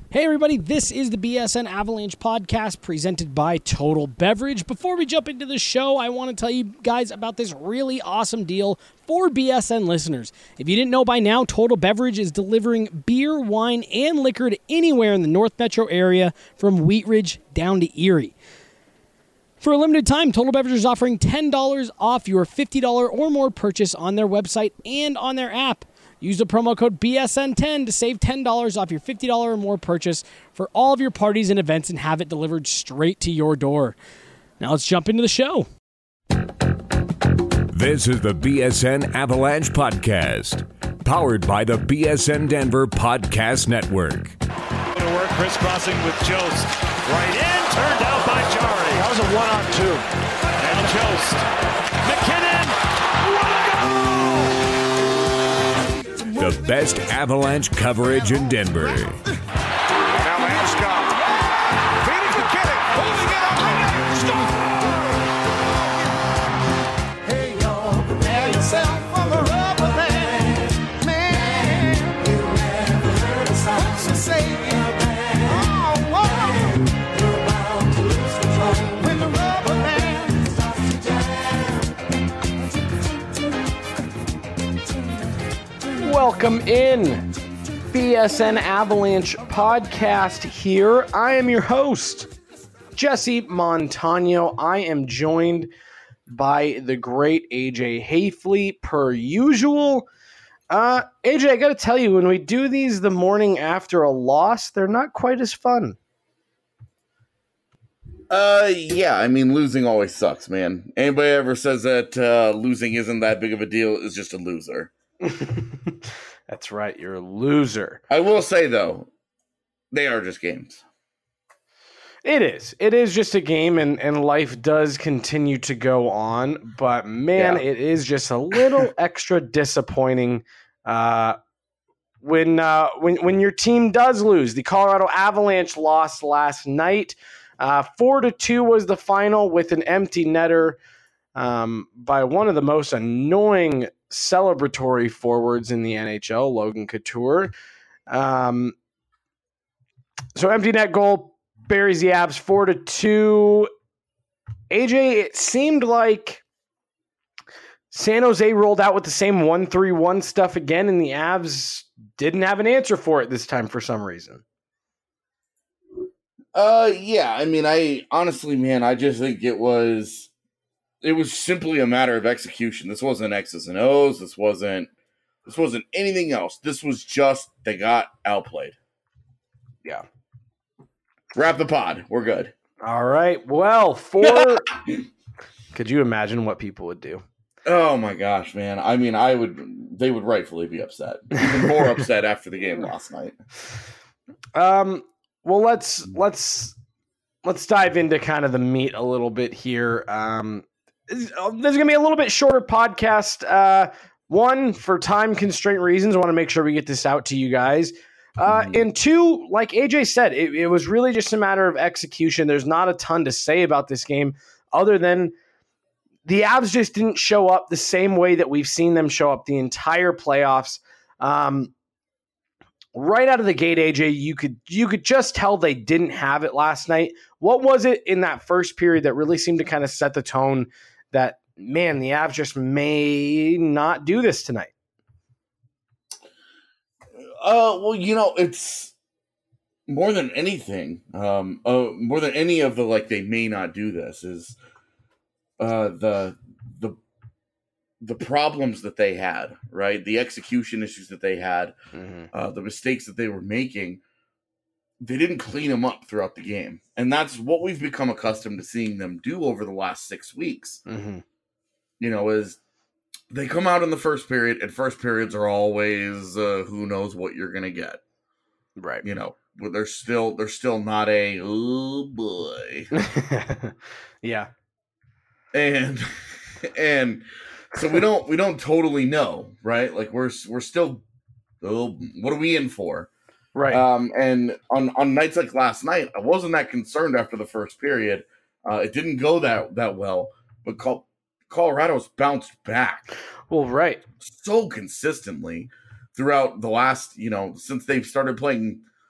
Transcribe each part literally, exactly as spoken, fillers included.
Hey everybody, this is the B S N Avalanche podcast presented by Total Beverage. Before we jump into the show, I want to tell you guys about this really awesome deal for B S N listeners. If you didn't know by now, Total Beverage is delivering beer, wine, and liquor to anywhere in the North Metro area from Wheat Ridge down to Erie. For a limited time, Total Beverage is offering ten dollars off your fifty dollars or more purchase on their website and on their app. Use the promo code B S N ten to save ten dollars off your fifty dollars or more purchase for all of your parties and events and have it delivered straight to your door. Now let's jump into the show. This is the B S N Avalanche Podcast, powered by the B S N Denver Podcast Network. To work, crisscrossing with Jost. Right in, turned out by Jari. That was a one-on-two. And Jost. McKinnon. What a goal! The best Avalanche coverage in Denver. Now Landeskog. Feeding McKinnon. Holding it up. Hey, y'all, prepare yourself for the rubber band. Man, you never heard a sound so say it. Oh, whoa. You're about to lose control when the rubber band starts to jam. Welcome in. B S N Avalanche podcast here. I am your host, Jesse Montano. I am joined by the great A J Hayfley per usual. Uh, A J, I got to tell you, when we do these the morning after a loss, they're not quite as fun. Uh, yeah, I mean, losing always sucks, man. Anybody ever says that uh, losing isn't that big of a deal is just a loser. That's right, you're a loser. I will say, though, they are just games. It is. It is just a game, and, and life does continue to go on. But, man, Yeah. it is just a little extra disappointing uh, when, uh, when when your team does lose. The Colorado Avalanche lost last night. Uh, four to two was the final with an empty netter um, by one of the most annoying celebratory forwards in the N H L, Logan Couture. Um, so empty net goal buries the Avs four to two. A J, it seemed like San Jose rolled out with the same one three one stuff again, and the Avs didn't have an answer for it this time for some reason. Uh, yeah, I mean, I honestly, man, I just think it was, it was simply a matter of execution. This wasn't X's and O's. This wasn't, this wasn't anything else. This was just, they got outplayed. Yeah. Wrap the pod. We're good. All right. Well, for could you imagine what people would do? Oh my gosh, man. I mean, I would, they would rightfully be upset. Even more upset after the game last night. Um, well, let's let's let's dive into kind of the meat a little bit here. Um, there's going to be a little bit shorter podcast. Uh, one, for time constraint reasons, I want to make sure we get this out to you guys. Uh, and two, like A J said, it, it was really just a matter of execution. There's not a ton to say about this game other than the Avs just didn't show up the same way that we've seen them show up the entire playoffs. Um, right out of the gate, A J, you could you could just tell they didn't have it last night. What was it in that first period that really seemed to kind of set the tone that, man, the Avs just may not do this tonight? Uh, well, you know, it's more than anything, um, uh, more than any of the, like, they may not do this is, uh, the, the, the problems that they had, right? The execution issues that they had, mm-hmm. uh, the mistakes that they were making, they didn't clean them up throughout the game. And that's what we've become accustomed to seeing them do over the last six weeks. Mm-hmm. You know, is they come out in the first period, and first periods are always uh, who knows what you're going to get. Right. You know, but they're still they're still not a oh boy. Yeah. And and so we don't we don't totally know, right? Like we're we're still oh, what are we in for? Right. Um and on on nights like last night, I wasn't that concerned after the first period. Uh, it didn't go that that well, but Col- Colorado's bounced back. Well, right. So consistently throughout the last, you know, since they've started playing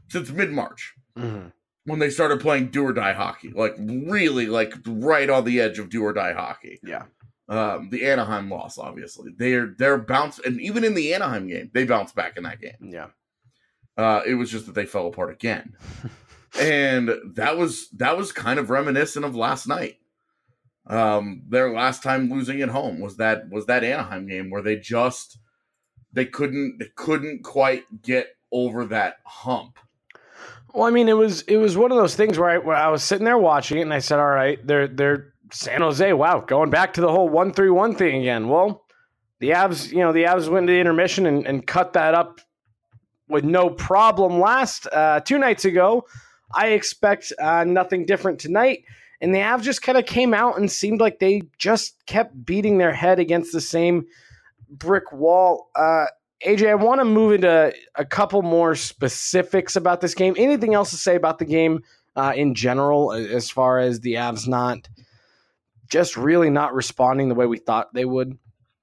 since mid-March. Mm-hmm. When they started playing do or die hockey, like really, like right on the edge of do or die hockey. Yeah. Um, the Anaheim loss, obviously, they're they're bounced, and even in the Anaheim game, they bounced back in that game. Yeah. Uh, it was just that they fell apart again, and that was that was kind of reminiscent of last night. Um, their last time losing at home was that was that Anaheim game where they just they couldn't they couldn't quite get over that hump. Well, I mean, it was it was one of those things where I, where I was sitting there watching it, and I said, "All right, they're they're San Jose. Wow, going back to the whole one three one thing again." Well, the Avs, you know, the Avs went to intermission and, and cut that up with no problem last uh, two nights ago. I expect uh, nothing different tonight, and the Avs just kind of came out and seemed like they just kept beating their head against the same brick wall. Uh, A J, I want to move into a couple more specifics about this game. Anything else to say about the game uh, in general, as far as the Avs not just really not responding the way we thought they would?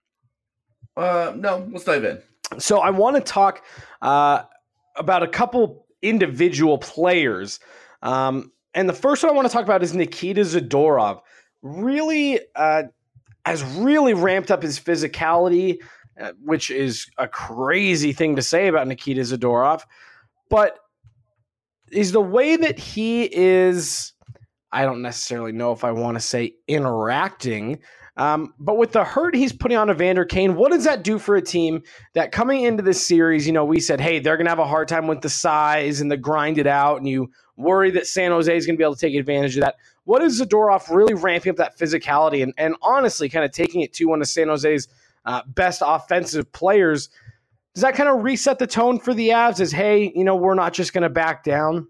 Uh, no, let's dive in. So I want to talk uh, about a couple individual players. Um, and the first one I want to talk about is Nikita Zadorov. Really uh, has really ramped up his physicality, Uh, which is a crazy thing to say about Nikita Zadorov, but is the way that he is, I don't necessarily know if I want to say interacting, um, but with the hurt he's putting on Evander Kane, what does that do for a team that coming into this series, you know, we said, hey, they're going to have a hard time with the size and the grind it out, and you worry that San Jose is going to be able to take advantage of that. What is Zadorov really ramping up that physicality and, and honestly kind of taking it to one of San Jose's Uh, best offensive players? Does that kind of reset the tone for the Avs as, hey, you know, we're not just going to back down?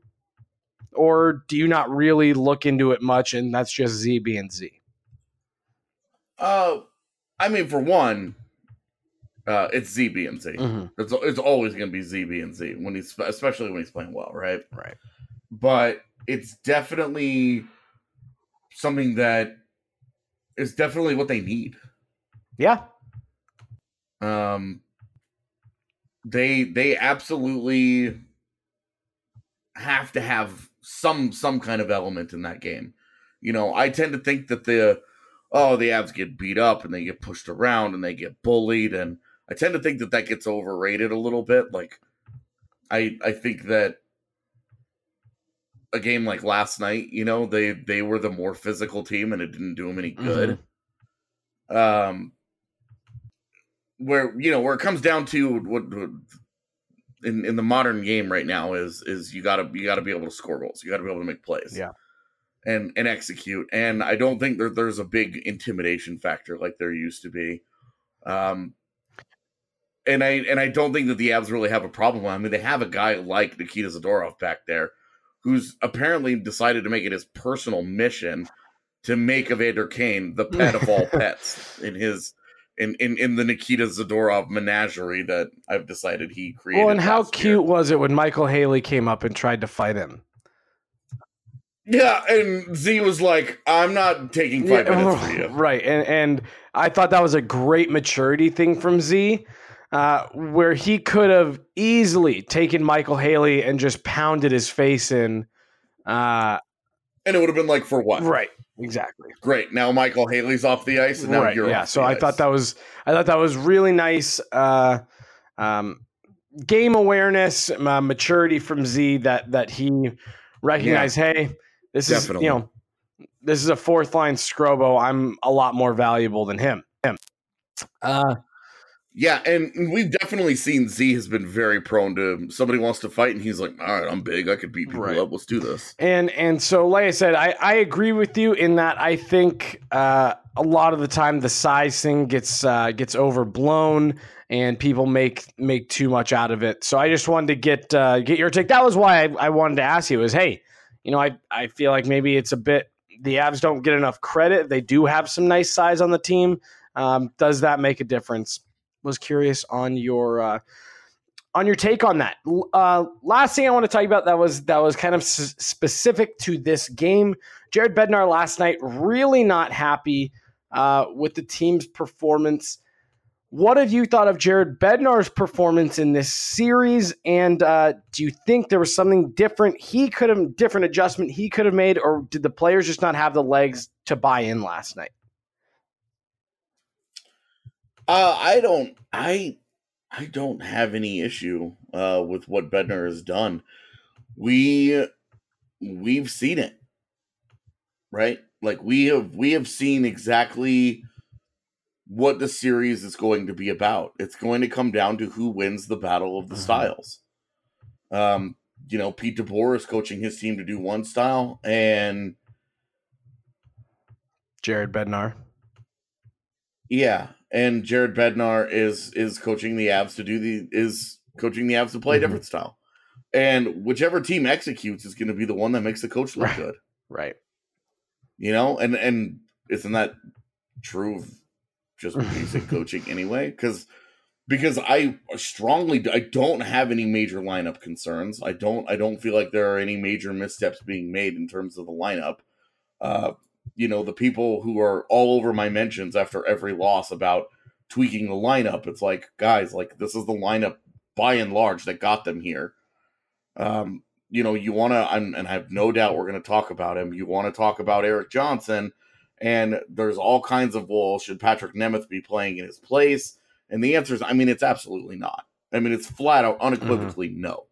Or do you not really look into it much and that's just Z being Z? Uh, I mean, for one, uh, it's Z being Z. Mm-hmm. It's it's always going to be Z being Z when he's especially when he's playing well, right? Right. But it's definitely something that is definitely what they need. Yeah. Um, they they absolutely have to have some some kind of element in that game. You know, I tend to think that the oh the Avs get beat up and they get pushed around and they get bullied, and I tend to think that that gets overrated a little bit. Like, I I think that a game like last night, you know, they they were the more physical team and it didn't do them any good. Mm-hmm. Um. Where you know where it comes down to what, what in in the modern game right now is is you gotta you gotta be able to score goals, you gotta be able to make plays, yeah, and and execute. And I don't think there, there's a big intimidation factor like there used to be. Um, and I and I don't think that the Avs really have a problem. I mean, they have a guy like Nikita Zadorov back there, who's apparently decided to make it his personal mission to make Evander Kane the pet of all pets in his. In, in, in the Nikita Zadorov menagerie that I've decided he created. Well, and how cute year. was it when Michael Haley came up and tried to fight him? Yeah, and Z was like, I'm not taking five yeah, minutes for you. Right, and, and I thought that was a great maturity thing from Z, uh, where he could have easily taken Michael Haley and just pounded his face in. Uh, and it would have been like, for what? Right. Exactly. Great. Now Michael Haley's off the ice, and now right, you're yeah. off So the I ice. thought that was I thought that was really nice. Uh, um, game awareness, uh, maturity from Z that that he recognized. Yeah, hey, this definitely. is you know this is a fourth line Scrobo. I'm a lot more valuable than him. Him. Uh, yeah, and we've definitely seen Z has been very prone to somebody wants to fight, and he's like, all right, I'm big, I could beat people right. up. Let's do this. And and so, like I said, I, I agree with you in that I think uh, a lot of the time the size thing gets uh, gets overblown, and people make make too much out of it. So I just wanted to get uh, get your take. That was why I, I wanted to ask you is, hey, you know, I I feel like maybe it's a bit the Avs don't get enough credit. They do have some nice size on the team. Um, does that make a difference? Was curious on your uh, on your take on that. Uh, last thing I want to talk about that was that was kind of s- specific to this game. Jared Bednar last night really not happy uh, with the team's performance. what have you thought of Jared Bednar's performance in this series? And uh, do you think there was something different he could have, different adjustment he could have made, or did the players just not have the legs to buy in last night? Uh, I don't, I, I don't have any issue uh, with what Bednar has done. We, we've seen it, right? Like we have, we have seen exactly what the series is going to be about. It's going to come down to who wins the battle of the mm-hmm. styles. Um, you know, Pete DeBoer is coaching his team to do one style, and Jared Bednar. Yeah, and Jared Bednar is is coaching the Avs to do the is coaching the Avs to play mm-hmm. a different style. And whichever team executes is going to be the one that makes the coach look right. good. Right. You know, and and isn't that true of just basic coaching anyway? Because because I strongly I don't have any major lineup concerns. I don't I don't feel like there are any major missteps being made in terms of the lineup. Uh, you know, the people who are all over my mentions after every loss about tweaking the lineup, it's like, guys, like this is the lineup by and large that got them here. Um, you know, you want to, and I have no doubt we're going to talk about him. You want to talk about Erik Johnson, and there's all kinds of, well, should Patrick Nemeth be playing in his place? And the answer is, I mean, it's absolutely not. I mean, it's flat out, unequivocally mm-hmm. no.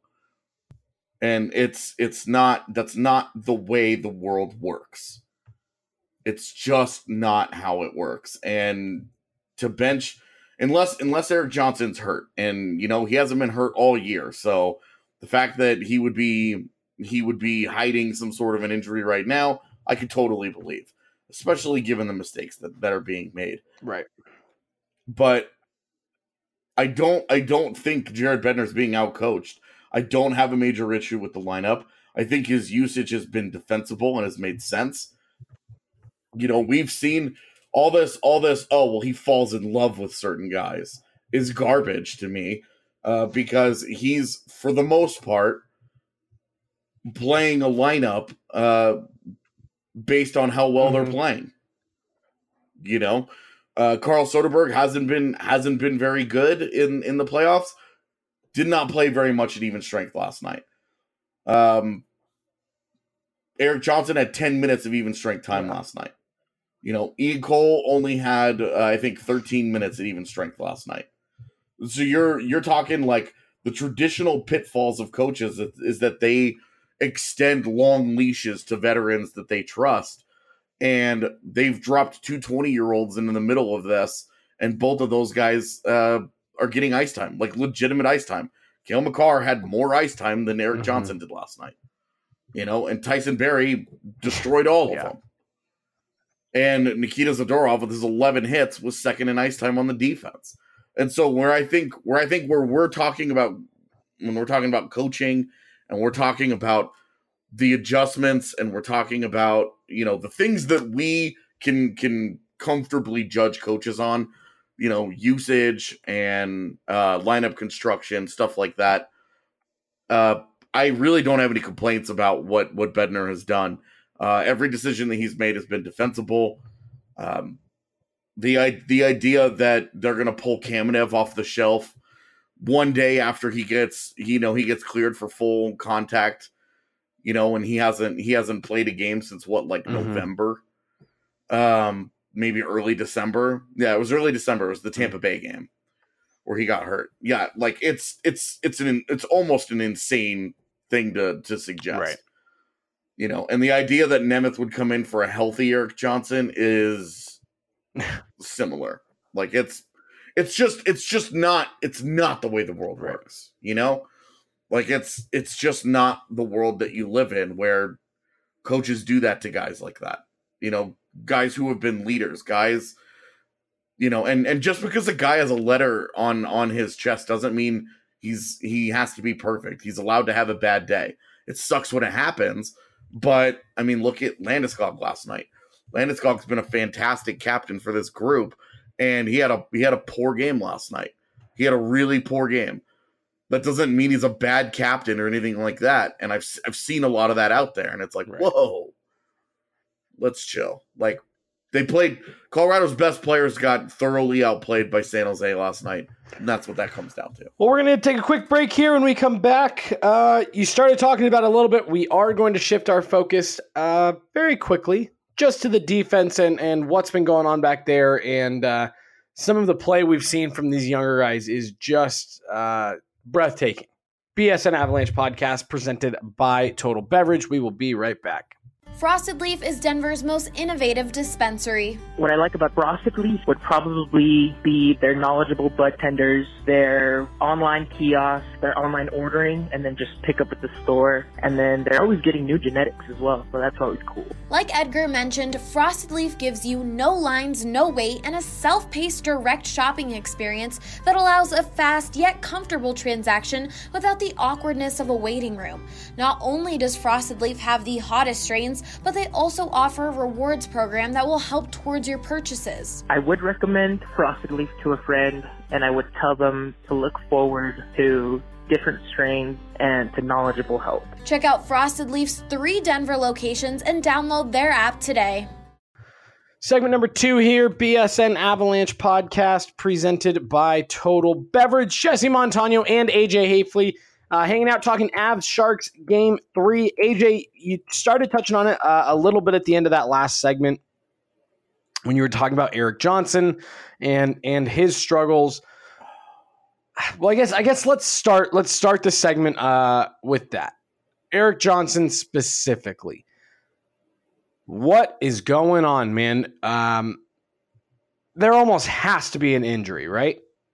And it's it's not, that's not the way the world works. It's just not how it works. And to bench, unless unless Erik Johnson's hurt, and you know he hasn't been hurt all year, so the fact that he would be he would be hiding some sort of an injury right now, I could totally believe, especially given the mistakes that, that are being made. Right. But I don't I don't think Jared Bednar's being outcoached. I don't have a major issue with the lineup. I think his usage has been defensible and has made sense. You know, we've seen all this, all this, oh, well, he falls in love with certain guys is garbage to me uh, because he's, for the most part, playing a lineup uh, based on how well mm-hmm. they're playing. You know, uh, Carl Soderberg hasn't been hasn't been very good in, in the playoffs. Did not play very much at even strength last night. Um, Erik Johnson had ten minutes of even strength time yeah. last night. You know, Ian Cole only had, uh, I think, thirteen minutes at even strength last night. So you're you're talking like the traditional pitfalls of coaches is, is that they extend long leashes to veterans that they trust. And they've dropped two twenty-year-olds into the middle of this, and both of those guys uh, are getting ice time, like legitimate ice time. Cale Makar had more ice time than Erik mm-hmm. Johnson did last night. You know, and Tyson Barrie destroyed all of yeah. them. And Nikita Zadorov with his eleven hits was second in ice time on the defense. And so where I think where I think where we're talking about when we're talking about coaching and we're talking about the adjustments and we're talking about, you know, the things that we can can comfortably judge coaches on, you know, usage and uh, lineup construction, stuff like that. Uh, I really don't have any complaints about what what Bednar has done. Uh, every decision that he's made has been defensible. Um, the the idea that they're going to pull Kamenev off the shelf one day after he gets, you know, he gets cleared for full contact, you know, and he hasn't he hasn't played a game since what, like mm-hmm. November, um, maybe early December. Yeah, it was early December. It was the Tampa Bay game where he got hurt. Yeah, like it's it's it's an it's almost an insane thing to to suggest. Right. You know, and the idea that Nemeth would come in for a healthy Erik Johnson is similar. Like it's, it's just, it's just not, it's not the way the world right. works. You know, like it's, it's just not the world that you live in where coaches do that to guys like that. You know, guys who have been leaders, guys. You know, and and just because a guy has a letter on on his chest doesn't mean he's he has to be perfect. He's allowed to have a bad day. It sucks when it happens. But, I mean, look at Landeskog last night. Landeskog's been a fantastic captain for this group, and he had a he had a poor game last night. He had a really poor game. That doesn't mean he's a bad captain or anything like that. And I've I've seen a lot of that out there, and it's like, right. whoa, let's chill. Like, they played Colorado's best players got thoroughly outplayed by San Jose last night. And that's what that comes down to. Well, we're going to take a quick break here. When we come back, uh, you started talking about it a little bit. We are going to shift our focus uh, very quickly just to the defense and, and what's been going on back there. And uh, some of the play we've seen from these younger guys is just uh, breathtaking. B S N Avalanche podcast presented by Total Beverage. We will be right back. Frosted Leaf is Denver's most innovative dispensary. What I like about Frosted Leaf would probably be their knowledgeable bud tenders, their online kiosk, their online ordering, and then just pick up at the store. And then they're always getting new genetics as well, so that's always cool. Like Edgar mentioned, Frosted Leaf gives you no lines, no wait, and a self-paced direct shopping experience that allows a fast yet comfortable transaction without the awkwardness of a waiting room. Not only does Frosted Leaf have the hottest strains, but they also offer a rewards program that will help towards your purchases. I would recommend Frosted Leaf to a friend, and I would tell them to look forward to different strains and to knowledgeable help. Check out Frosted Leaf's three Denver locations and download their app today. Segment number two here, B S N Avalanche podcast presented by Total Beverage. Jesse Montano and A J Hafley Uh, hanging out, talking Avs Sharks game three. A J, you started touching on it uh, a little bit at the end of that last segment when you were talking about Erik Johnson and and his struggles. Well, I guess I guess let's start let's start the segment uh, with that. Erik Johnson specifically. What is going on, man? Um, there almost has to be an injury, right?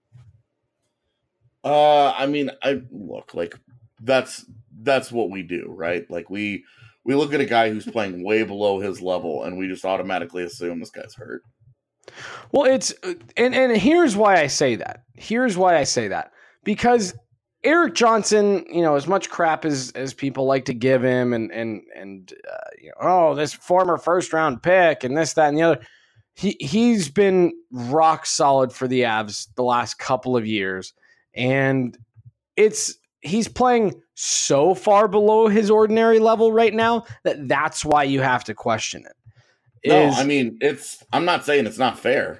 Uh, I mean, I look like that's that's what we do, right? Like we we look at a guy who's playing way below his level, and we just automatically assume this guy's hurt. Well, it's and and here's why I say that. Here's why I say that because Erik Johnson, you know, as much crap as as people like to give him, and and and uh, you know, oh, this former first round pick, and this, that, and the other. He he's been rock solid for the Avs the last couple of years. And it's he's playing so far below his ordinary level right now that that's why you have to question it. No, Is, I mean, it's I'm not saying it's not fair.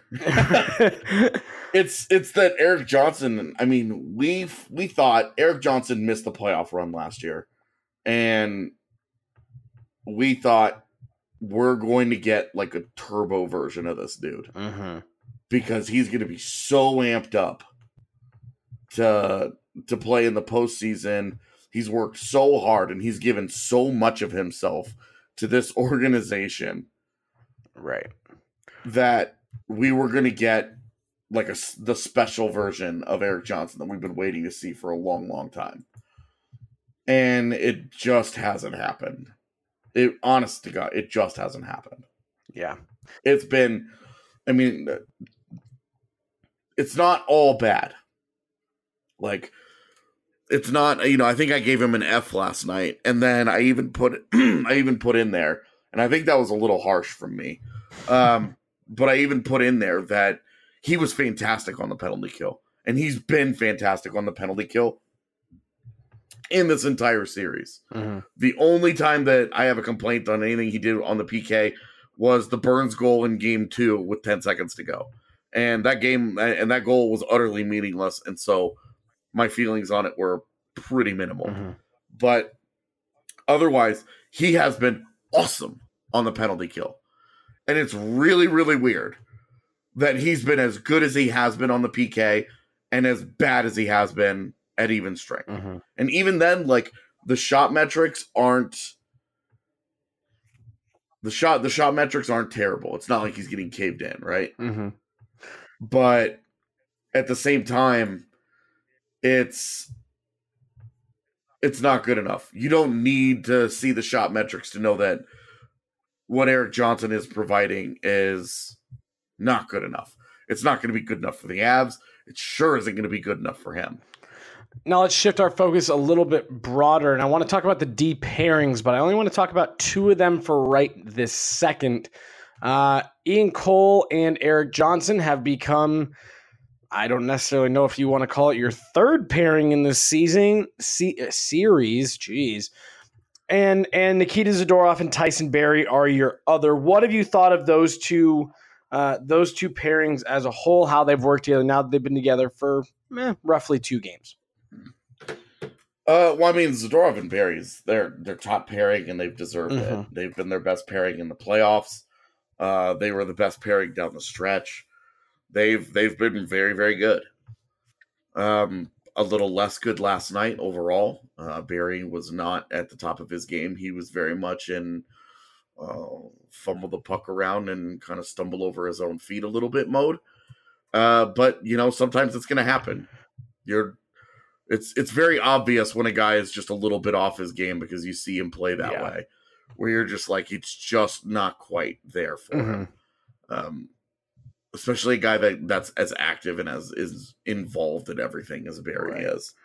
it's it's that Erik Johnson, I mean, we we thought Erik Johnson missed the playoff run last year. And we thought we're going to get like a turbo version of this dude. Mm-hmm. Because he's going to be so amped up to to play in the postseason. He's worked so hard and he's given so much of himself to this organization, right? That we were going to get like a the special version of Erik Johnson that we've been waiting to see for a long, long time, and it just hasn't happened. It, honest to God, it just hasn't happened. Yeah, it's been. I mean, it's not all bad. Like, it's not, you know, I think I gave him an F last night, and then I even put I even put in there, and I think that was a little harsh from me. Um, but I even put in there that he was fantastic on the penalty kill, and he's been fantastic on the penalty kill in this entire series. Mm-hmm. The only time that I have a complaint on anything he did on the P K was the Burns goal in game two with ten seconds to go. And that game and that goal was utterly meaningless. And so my feelings on it were pretty minimal. Mm-hmm. But otherwise, he has been awesome on the penalty kill. And it's really, really weird that he's been as good as he has been on the P K and as bad as he has been at even strength. Mm-hmm. And even then, like, the shot metrics aren't the shot the shot metrics aren't terrible. It's not like he's getting caved in, right? Mm-hmm. But at the same time, it's it's not good enough. You don't need to see the shot metrics to know that what Erik Johnson is providing is not good enough. It's not going to be good enough for the Avs. It sure isn't going to be good enough for him. Now let's shift our focus a little bit broader, and I want to talk about the D pairings, but I only want to talk about two of them for right this second. Uh, Ian Cole and Erik Johnson have become, I don't necessarily know if you want to call it your third pairing in this season se- series. Jeez. and and Nikita Zadorov and Tyson Barrie are your other. What have you thought of those two uh, those two pairings as a whole? How they've worked together now that they've been together for eh, roughly two games. Uh, well, I mean, Zadorov and Barrie's they're their top pairing, and they've deserved Mm-hmm. it. They've been their best pairing in the playoffs. Uh, they were the best pairing down the stretch. They've they've been very very good. Um, a little less good last night overall. Uh, Barrie was not at the top of his game. He was very much in uh, fumble the puck around and kind of stumble over his own feet a little bit mode. Uh, but you know, sometimes it's going to happen. You're It's it's very obvious when a guy is just a little bit off his game because you see him play that Yeah. way, where you're just like, it's just not quite there for Mm-hmm. him. Um, especially a guy that, that's as active and as is involved in everything as Barrie Right. is.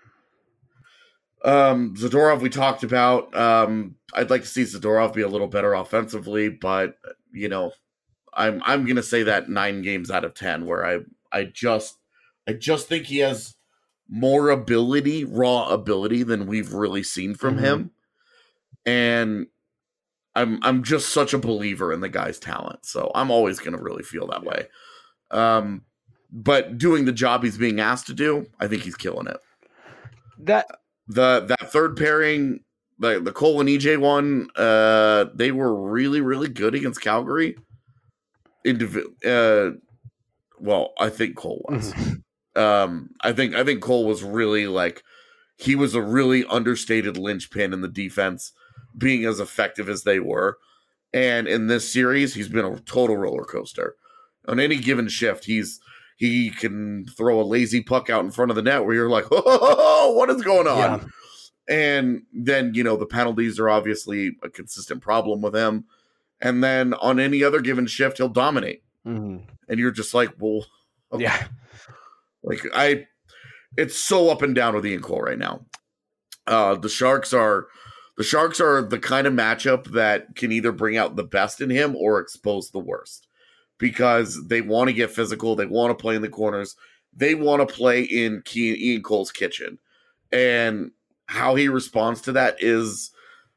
Um, Zadorov, we talked about. Um, I'd like to see Zadorov be a little better offensively, but you know, I'm I'm gonna say that nine games out of ten, where I I just I just think he has more ability, raw ability than we've really seen from Mhm. him. And I'm I'm just such a believer in the guy's talent. So I'm always going to really feel that way. Um, but doing the job he's being asked to do, I think he's killing it. That The that third pairing, the the Cole and E J one, uh, they were really really good against Calgary. Indiv- uh, well, I think Cole was. Um, I think I think Cole was really like he was a really understated linchpin in the defense, being as effective as they were. And in this series, he's been a total roller coaster. On any given shift, he's he can throw a lazy puck out in front of the net where you're like, oh, what is going on? Yeah. And then, you know, the penalties are obviously a consistent problem with him. And then on any other given shift, he'll dominate. Mhm. And you're just like, well, okay. Yeah. Like I, it's so up and down with Ian Cole right now. Uh, the Sharks are, the Sharks are the kind of matchup that can either bring out the best in him or expose the worst, because they want to get physical, they want to play in the corners, they want to play in Ian Cole's kitchen, and how he responds to that is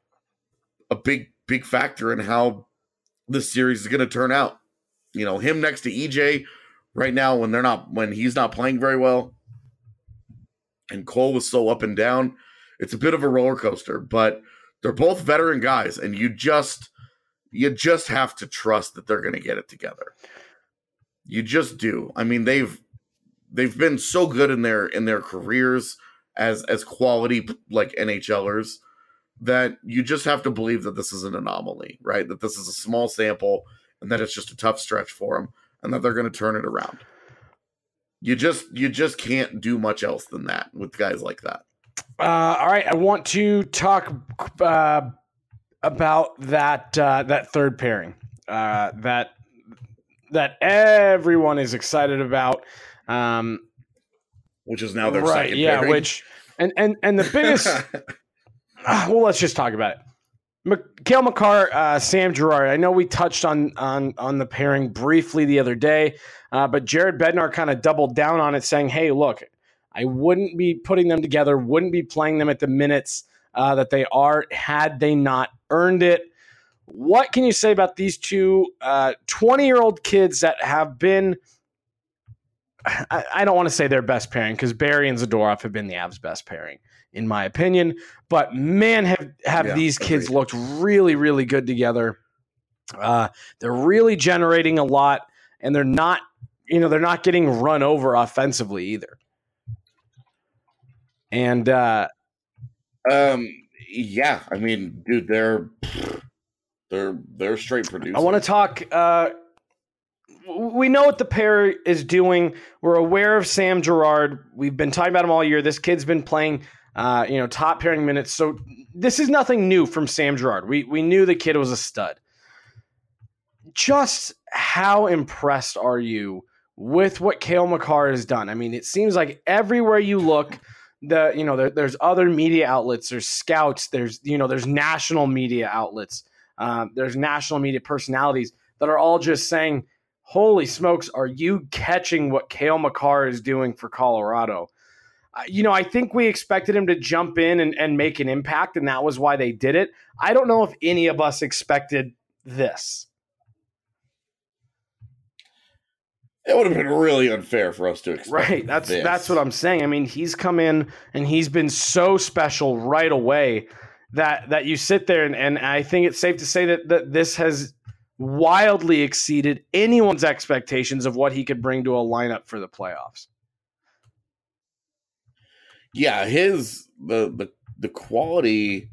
a big, big factor in how this series is going to turn out. You know, him next to E J. Right now, when they're not, when he's not playing very well, and Cole was so up and down, it's a bit of a roller coaster. But they're both veteran guys, and you just, you just have to trust that they're going to get it together. You just do. I mean, they've they've been so good in their in their careers as as quality like NHLers that you just have to believe that this is an anomaly, right? That this is a small sample, and that it's just a tough stretch for them, and that they're going to turn it around. You just you just can't do much else than that with guys like that. Uh, all right, I want to talk uh, about that uh, that third pairing uh, that that everyone is excited about, um, Which is now their right? second Yeah, pairing. which and and and the biggest. uh, well, let's just talk about it. Cale Makar, uh, Sam Girard. I know we touched on on on the pairing briefly the other day, uh, but Jared Bednar kind of doubled down on it, saying, "Hey, look, I wouldn't be putting them together, wouldn't be playing them at the minutes uh, that they are had they not earned it." What can you say about these two twenty-year-old kids that have been? I, I don't want to say their best pairing, because Barrie and Zadorov have been the Avs' best pairing, in my opinion. But man, have have Yeah, these kids agreed. looked really, really good together. Uh, they're really generating a lot, and they're not, you know, they're not getting run over offensively either. And uh, Um, yeah, I mean, dude, they're they're they're straight producers. I want to talk. Uh, we know what the pair is doing. We're aware of Sam Girard. We've been talking about him all year. This kid's been playing, uh, you know, top pairing minutes. So this is nothing new from Sam Girard. We we knew the kid was a stud. Just how impressed are you with what Cale Makar has done? I mean, it seems like everywhere you look, the you know there, there's other media outlets, there's scouts, there's you know there's national media outlets, um, there's national media personalities that are all just saying, "Holy smokes, are you catching what Cale Makar is doing for Colorado?" you know, I think we expected him to jump in and, and make an impact, and that was why they did it. I don't know if any of us expected this. It would have been really unfair for us to expect. Right. That's this. that's what I'm saying. I mean, he's come in and he's been so special right away that that you sit there and, and I think it's safe to say that, that this has wildly exceeded anyone's expectations of what he could bring to a lineup for the playoffs. Yeah, his the the the quality.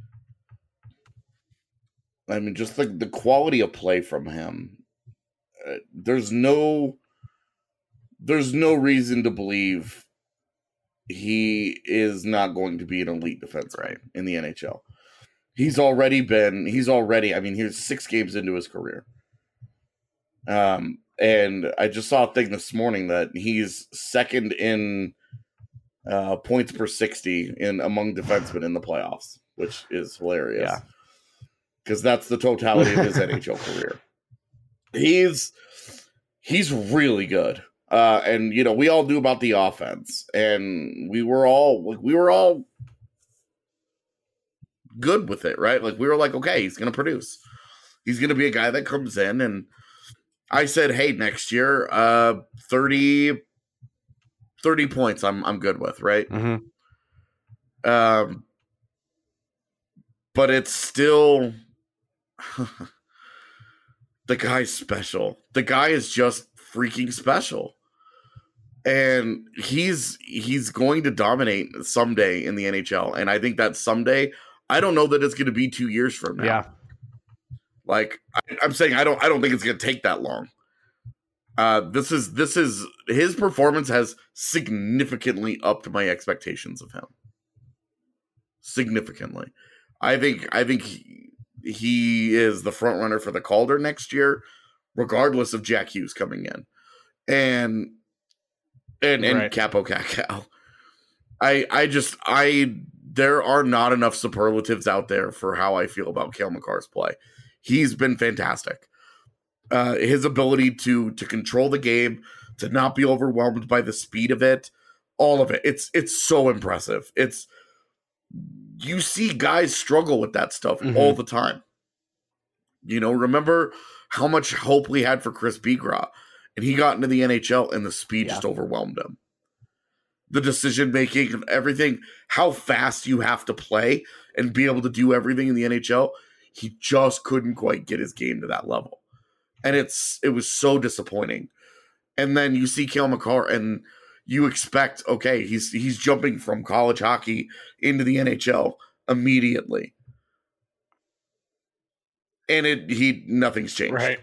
I mean, just like the quality of play from him. Uh, there's no. There's no reason to believe he is not going to be an elite defenseman right. in the N H L. He's already been, he's already, I mean, he's six games into his career. Um, and I just saw a thing this morning that he's second in uh, points per sixty in among defensemen in the playoffs, which is hilarious. Yeah. Because that's the totality of his N H L career. He's, he's really good. Uh, and you know, we all knew about the offense, and we were all we were all good with it, right? Like we were like, okay, he's gonna produce. He's gonna be a guy that comes in, and I said, hey, next year, uh, thirty, thirty points, I'm I'm good with, right? Mm-hmm. Um, but it's still the guy's special. The guy is just freaking special. And he's he's going to dominate someday in the N H L. And I think that someday, I don't know that it's going to be two years from now. Yeah. Like I, I'm saying, I don't I don't think it's going to take that long. Uh, this is this is his performance has significantly upped my expectations of him. Significantly. I think I think he, he is the front runner for the Calder next year, regardless of Jack Hughes coming in. And And and right. Capo Cacao. I I just I there are not enough superlatives out there for how I feel about Cale Makar's play. He's been fantastic. Uh, his ability to to control the game, to not be overwhelmed by the speed of it, all of it. It's it's so impressive. It's you see guys struggle with that stuff mm-hmm. all the time. You know, remember how much hope we had for Chris Bigras. And he got into the N H L, and the speed yeah. just overwhelmed him. The decision-making and everything, how fast you have to play and be able to do everything in the N H L, he just couldn't quite get his game to that level. And it's it was so disappointing. And then you see Cale Makar, and you expect, okay, he's he's jumping from college hockey into the N H L immediately. And it he nothing's changed. Right.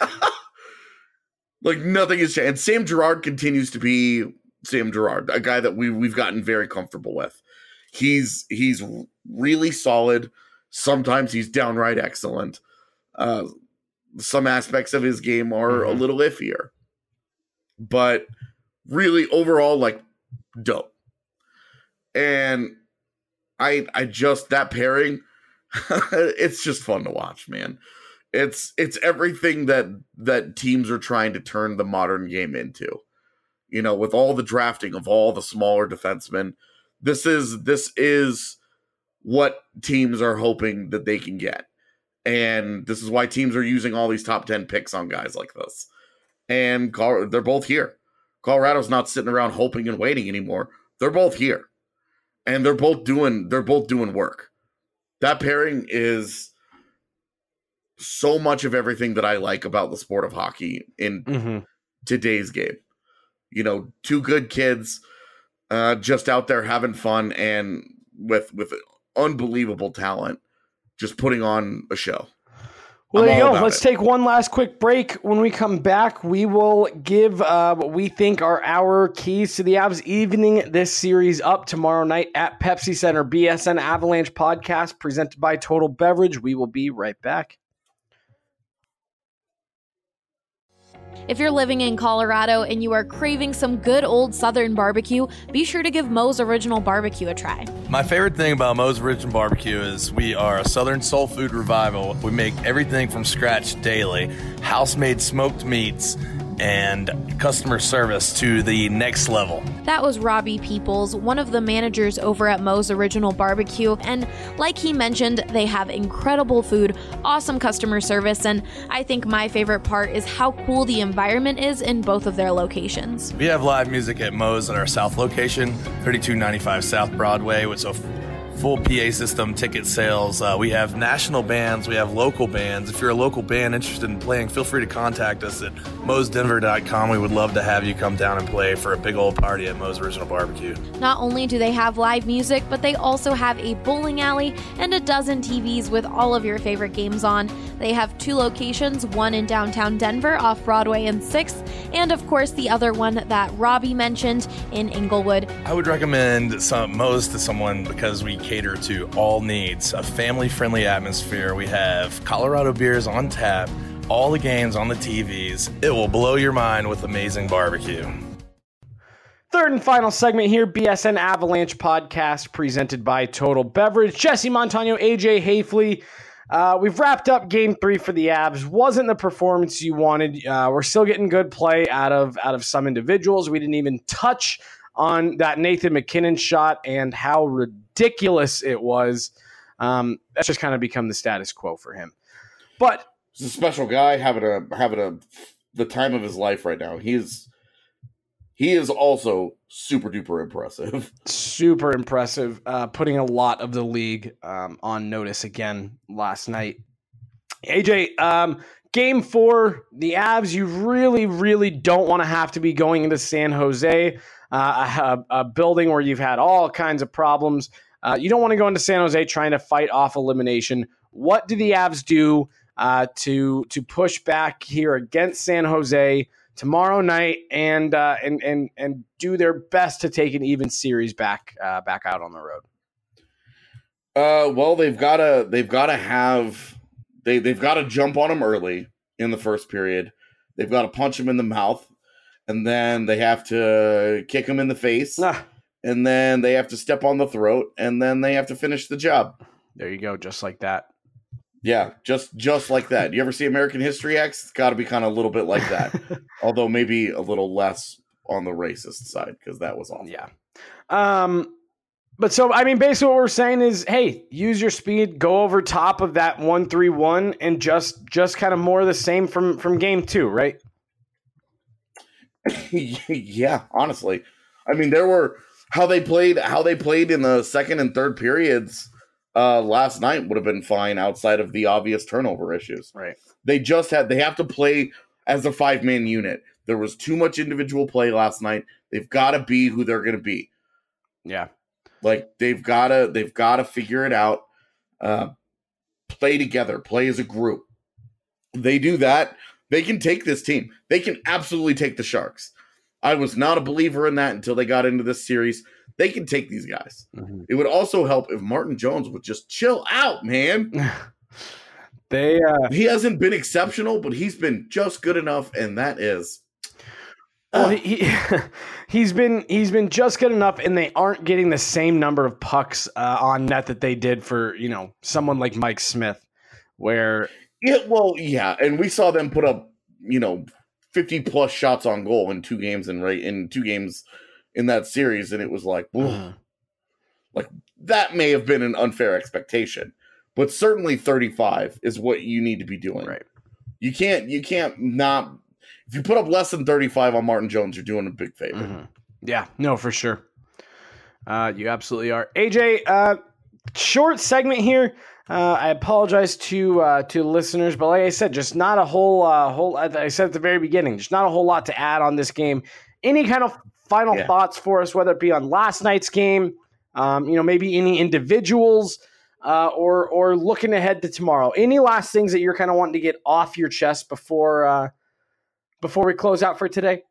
Like, nothing has changed. And Sam Girard continues to be Sam Girard, a guy that we, we've gotten very comfortable with. He's he's really solid. Sometimes he's downright excellent. Uh, some aspects of his game are mm-hmm. a little iffier. But really, overall, like, dope. And I I just, that pairing, it's just fun to watch, man. It's it's everything that that teams are trying to turn the modern game into. You know, with all the drafting of all the smaller defensemen, this is this is what teams are hoping that they can get. And this is why teams are using all these top ten picks on guys like this. And they're both here. Colorado's not sitting around hoping and waiting anymore. They're both here. And they're both doing they're both doing work. That pairing is so much of everything that I like about the sport of hockey in mm-hmm. today's game. You know, two good kids uh, just out there having fun and with with unbelievable talent, just putting on a show. Well, I'm there you go. about Let's it. take one last quick break. When we come back, we will give uh, what we think are our keys to the Avs, evening this series up tomorrow night at Pepsi Center. B S N Avalanche podcast presented by Total Beverage. We will be right back. If you're living in Colorado and you are craving some good old Southern barbecue, be sure to give Moe's Original Barbecue a try. My favorite thing about Moe's Original Barbecue is we are a Southern soul food revival. We make everything from scratch daily. House-made smoked meats, and customer service to the next level. That was Robbie Peoples, one of the managers over at Moe's Original Barbecue, and like he mentioned, they have incredible food, awesome customer service, and I think my favorite part is how cool the environment is in both of their locations. We have live music at Moe's at our South location, thirty-two ninety-five South Broadway, with a full P A system, ticket sales. Uh, we have national bands, we have local bands. If you're a local band interested in playing, feel free to contact us at moes denver dot com. We would love to have you come down and play for a big old party at Moe's Original Barbecue. Not only do they have live music, but they also have a bowling alley and a dozen T Vs with all of your favorite games on. They have two locations, one in downtown Denver off Broadway and sixth, and of course the other one that Robbie mentioned in Inglewood. I would recommend some Moe's to someone because we cater to all needs, a family-friendly atmosphere. We have Colorado beers on tap, all the games on the T Vs. It will blow your mind with amazing barbecue. Third and final segment here, B S N Avalanche podcast presented by Total Beverage. Jesse Montano, A J Hafley. Uh, we've wrapped up game three for the Avs. Wasn't the performance you wanted. Uh, we're still getting good play out of out of some individuals. We didn't even touch on that Nathan MacKinnon shot and how ridiculous it was. Um, that's just kind of become the status quo for him. But he's a special guy, having a having a the time of his life right now. He's he is also super duper impressive. Super impressive. Uh, putting a lot of the league um, on notice again last night. A J, um, game four, the Avs, you really, really don't want to have to be going into San Jose, uh, a, a building where you've had all kinds of problems. Uh, you don't want to go into San Jose trying to fight off elimination. What do the Avs do uh, to to push back here against San Jose tomorrow night and uh, and and and do their best to take an even series back uh, back out on the road? Uh, well, they've got to they've got to have they they've got to jump on them early in the first period. They've got to punch them in the mouth, and then they have to kick them in the face, Ah, and then they have to step on the throat, and then they have to finish the job. there you go, just like that. Yeah, just just like that. You ever see American History X? It's got to be kind of a little bit like that, although maybe a little less on the racist side because that was awful. Yeah. Um, but so, I mean, basically what we're saying is, hey, use your speed, go over top of that one three one, and just just kind of more of the same from, from game two, right? Yeah, honestly. I mean, there were how they played how they played in the second and third periods uh, last night would have been fine outside of the obvious turnover issues. Right. They just had they have to play as a five-man unit. There was too much individual play last night. They've got to be who they're going to be. Yeah. Like they've got to they've got to figure it out. Uh, play together, play as a group. They do that, they can take this team. They can absolutely take the Sharks. I was not a believer in that until they got into this series. They can take these guys. Mm-hmm. It would also help if Martin Jones would just chill out, man. They uh, He hasn't been exceptional, but he's been just good enough, and that is. well, he, he he's been he's been just good enough, and they aren't getting the same number of pucks uh, on net that they did for, you know, someone like Mike Smith, where Yeah, well, yeah, and we saw them put up, you know, fifty plus shots on goal in two games and right in two games in that series, and it was like, uh, like that may have been an unfair expectation, but certainly thirty-five is what you need to be doing. right. You can't, you can't not. If you put up less than thirty-five on Martin Jones, you're doing a big favor. Mhm. Yeah, no, for sure. Uh, you absolutely are. A J, uh, short segment here. Uh, I apologize to uh, to listeners, but like I said, just not a whole uh, whole. I said at the very beginning, just not a whole lot to add on this game. Any kind of final Yeah. thoughts for us, whether it be on last night's game, um, you know, maybe any individuals, uh, or or looking ahead to tomorrow. Any last things that you're kind of wanting to get off your chest before uh, before we close out for today?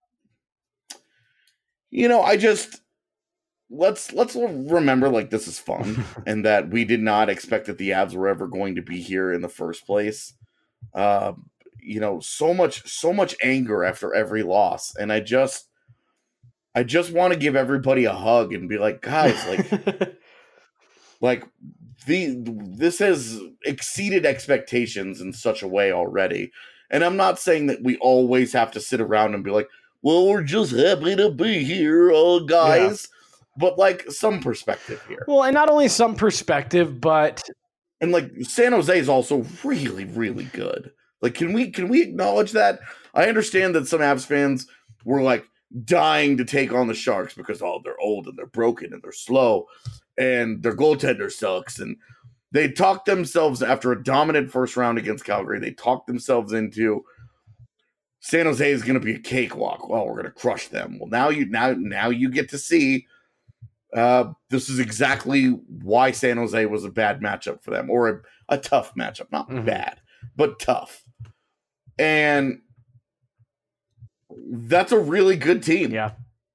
You know, I just let's let's remember like this is fun and that we did not expect that the Avs were ever going to be here in the first place. Uh, you know, so much so much anger after every loss, and I just I just want to give everybody a hug and be like, guys, like like the this has exceeded expectations in such a way already. And I'm not saying that we always have to sit around and be like, well, we're just happy to be here, uh, guys. Yeah. But, like, some perspective here. Well, and not only some perspective, but... And, like, San Jose is also really, really good. Like, can we can we acknowledge that? I understand that some Avs fans were, like, dying to take on the Sharks because, oh, they're old and they're broken and they're slow and their goaltender sucks. And they talked themselves, after a dominant first round against Calgary, they talked themselves into San Jose is going to be a cakewalk. Well, we're going to crush them. Well, now you now now you get to see uh, this is exactly why San Jose was a bad matchup for them, or a, a tough matchup. Not mm-hmm. bad, but tough. And that's a really good team. Yeah.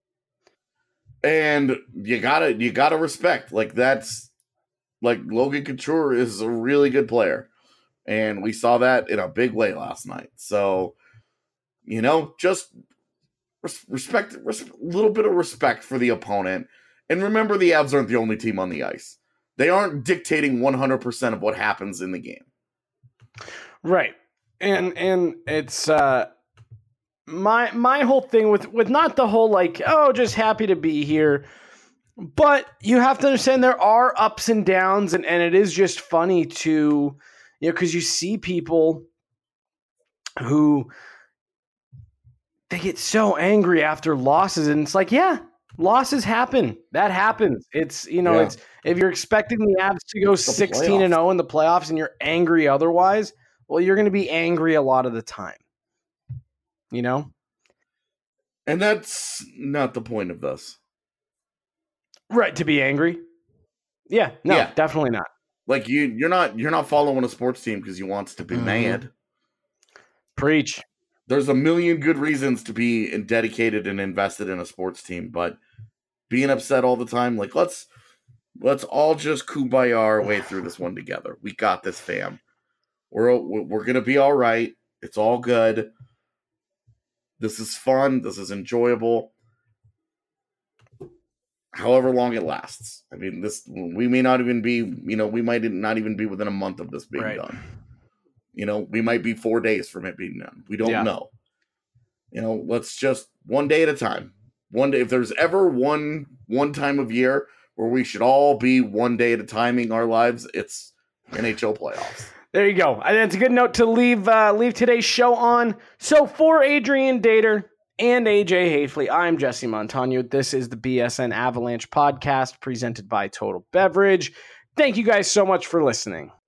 And you gotta you gotta respect. Like, that's like Logan Couture is a really good player. And we saw that in a big way last night. So, you know, just res- respect, res- a little bit of respect for the opponent. And remember, the Avs aren't the only team on the ice. They aren't dictating one hundred percent of what happens in the game. Right. And and it's uh, my my whole thing with, with not the whole, like, oh, just happy to be here. But you have to understand there are ups and downs. And, and it is just funny to, you know, because you see people who they get so angry after losses. And it's like, yeah, losses happen. That happens. It's, you know, yeah. it's if you're expecting the Avs to go sixteen and oh in the playoffs and you're angry otherwise, well, you're going to be angry a lot of the time, you know? And that's not the point of this. Right, to be angry? Yeah, no, yeah. definitely not. Like, you, you're not you're not following a sports team because you want to be mm-hmm. mad. Preach. There's a million good reasons to be dedicated and invested in a sports team, but being upset all the time, like, let's let's all just kumbaya our way through this one together. We got this, fam. We're we're gonna be all right. It's all good. This is fun. This is enjoyable. However long it lasts. I mean, this we may not even be. You know, we might not even be within a month of this being right. done. You know, we might be four days from it being done. We don't yeah. know. You know, let's just one day at a time. One day. If there's ever one one time of year where we should all be one day at a timing our lives, it's N H L playoffs. There you go. And it's a good note to leave uh, leave today's show on. So for Adrian Dater and A J Hafley, I'm Jesse Montano. This is the B S N Avalanche podcast presented by Total Beverage. Thank you guys so much for listening.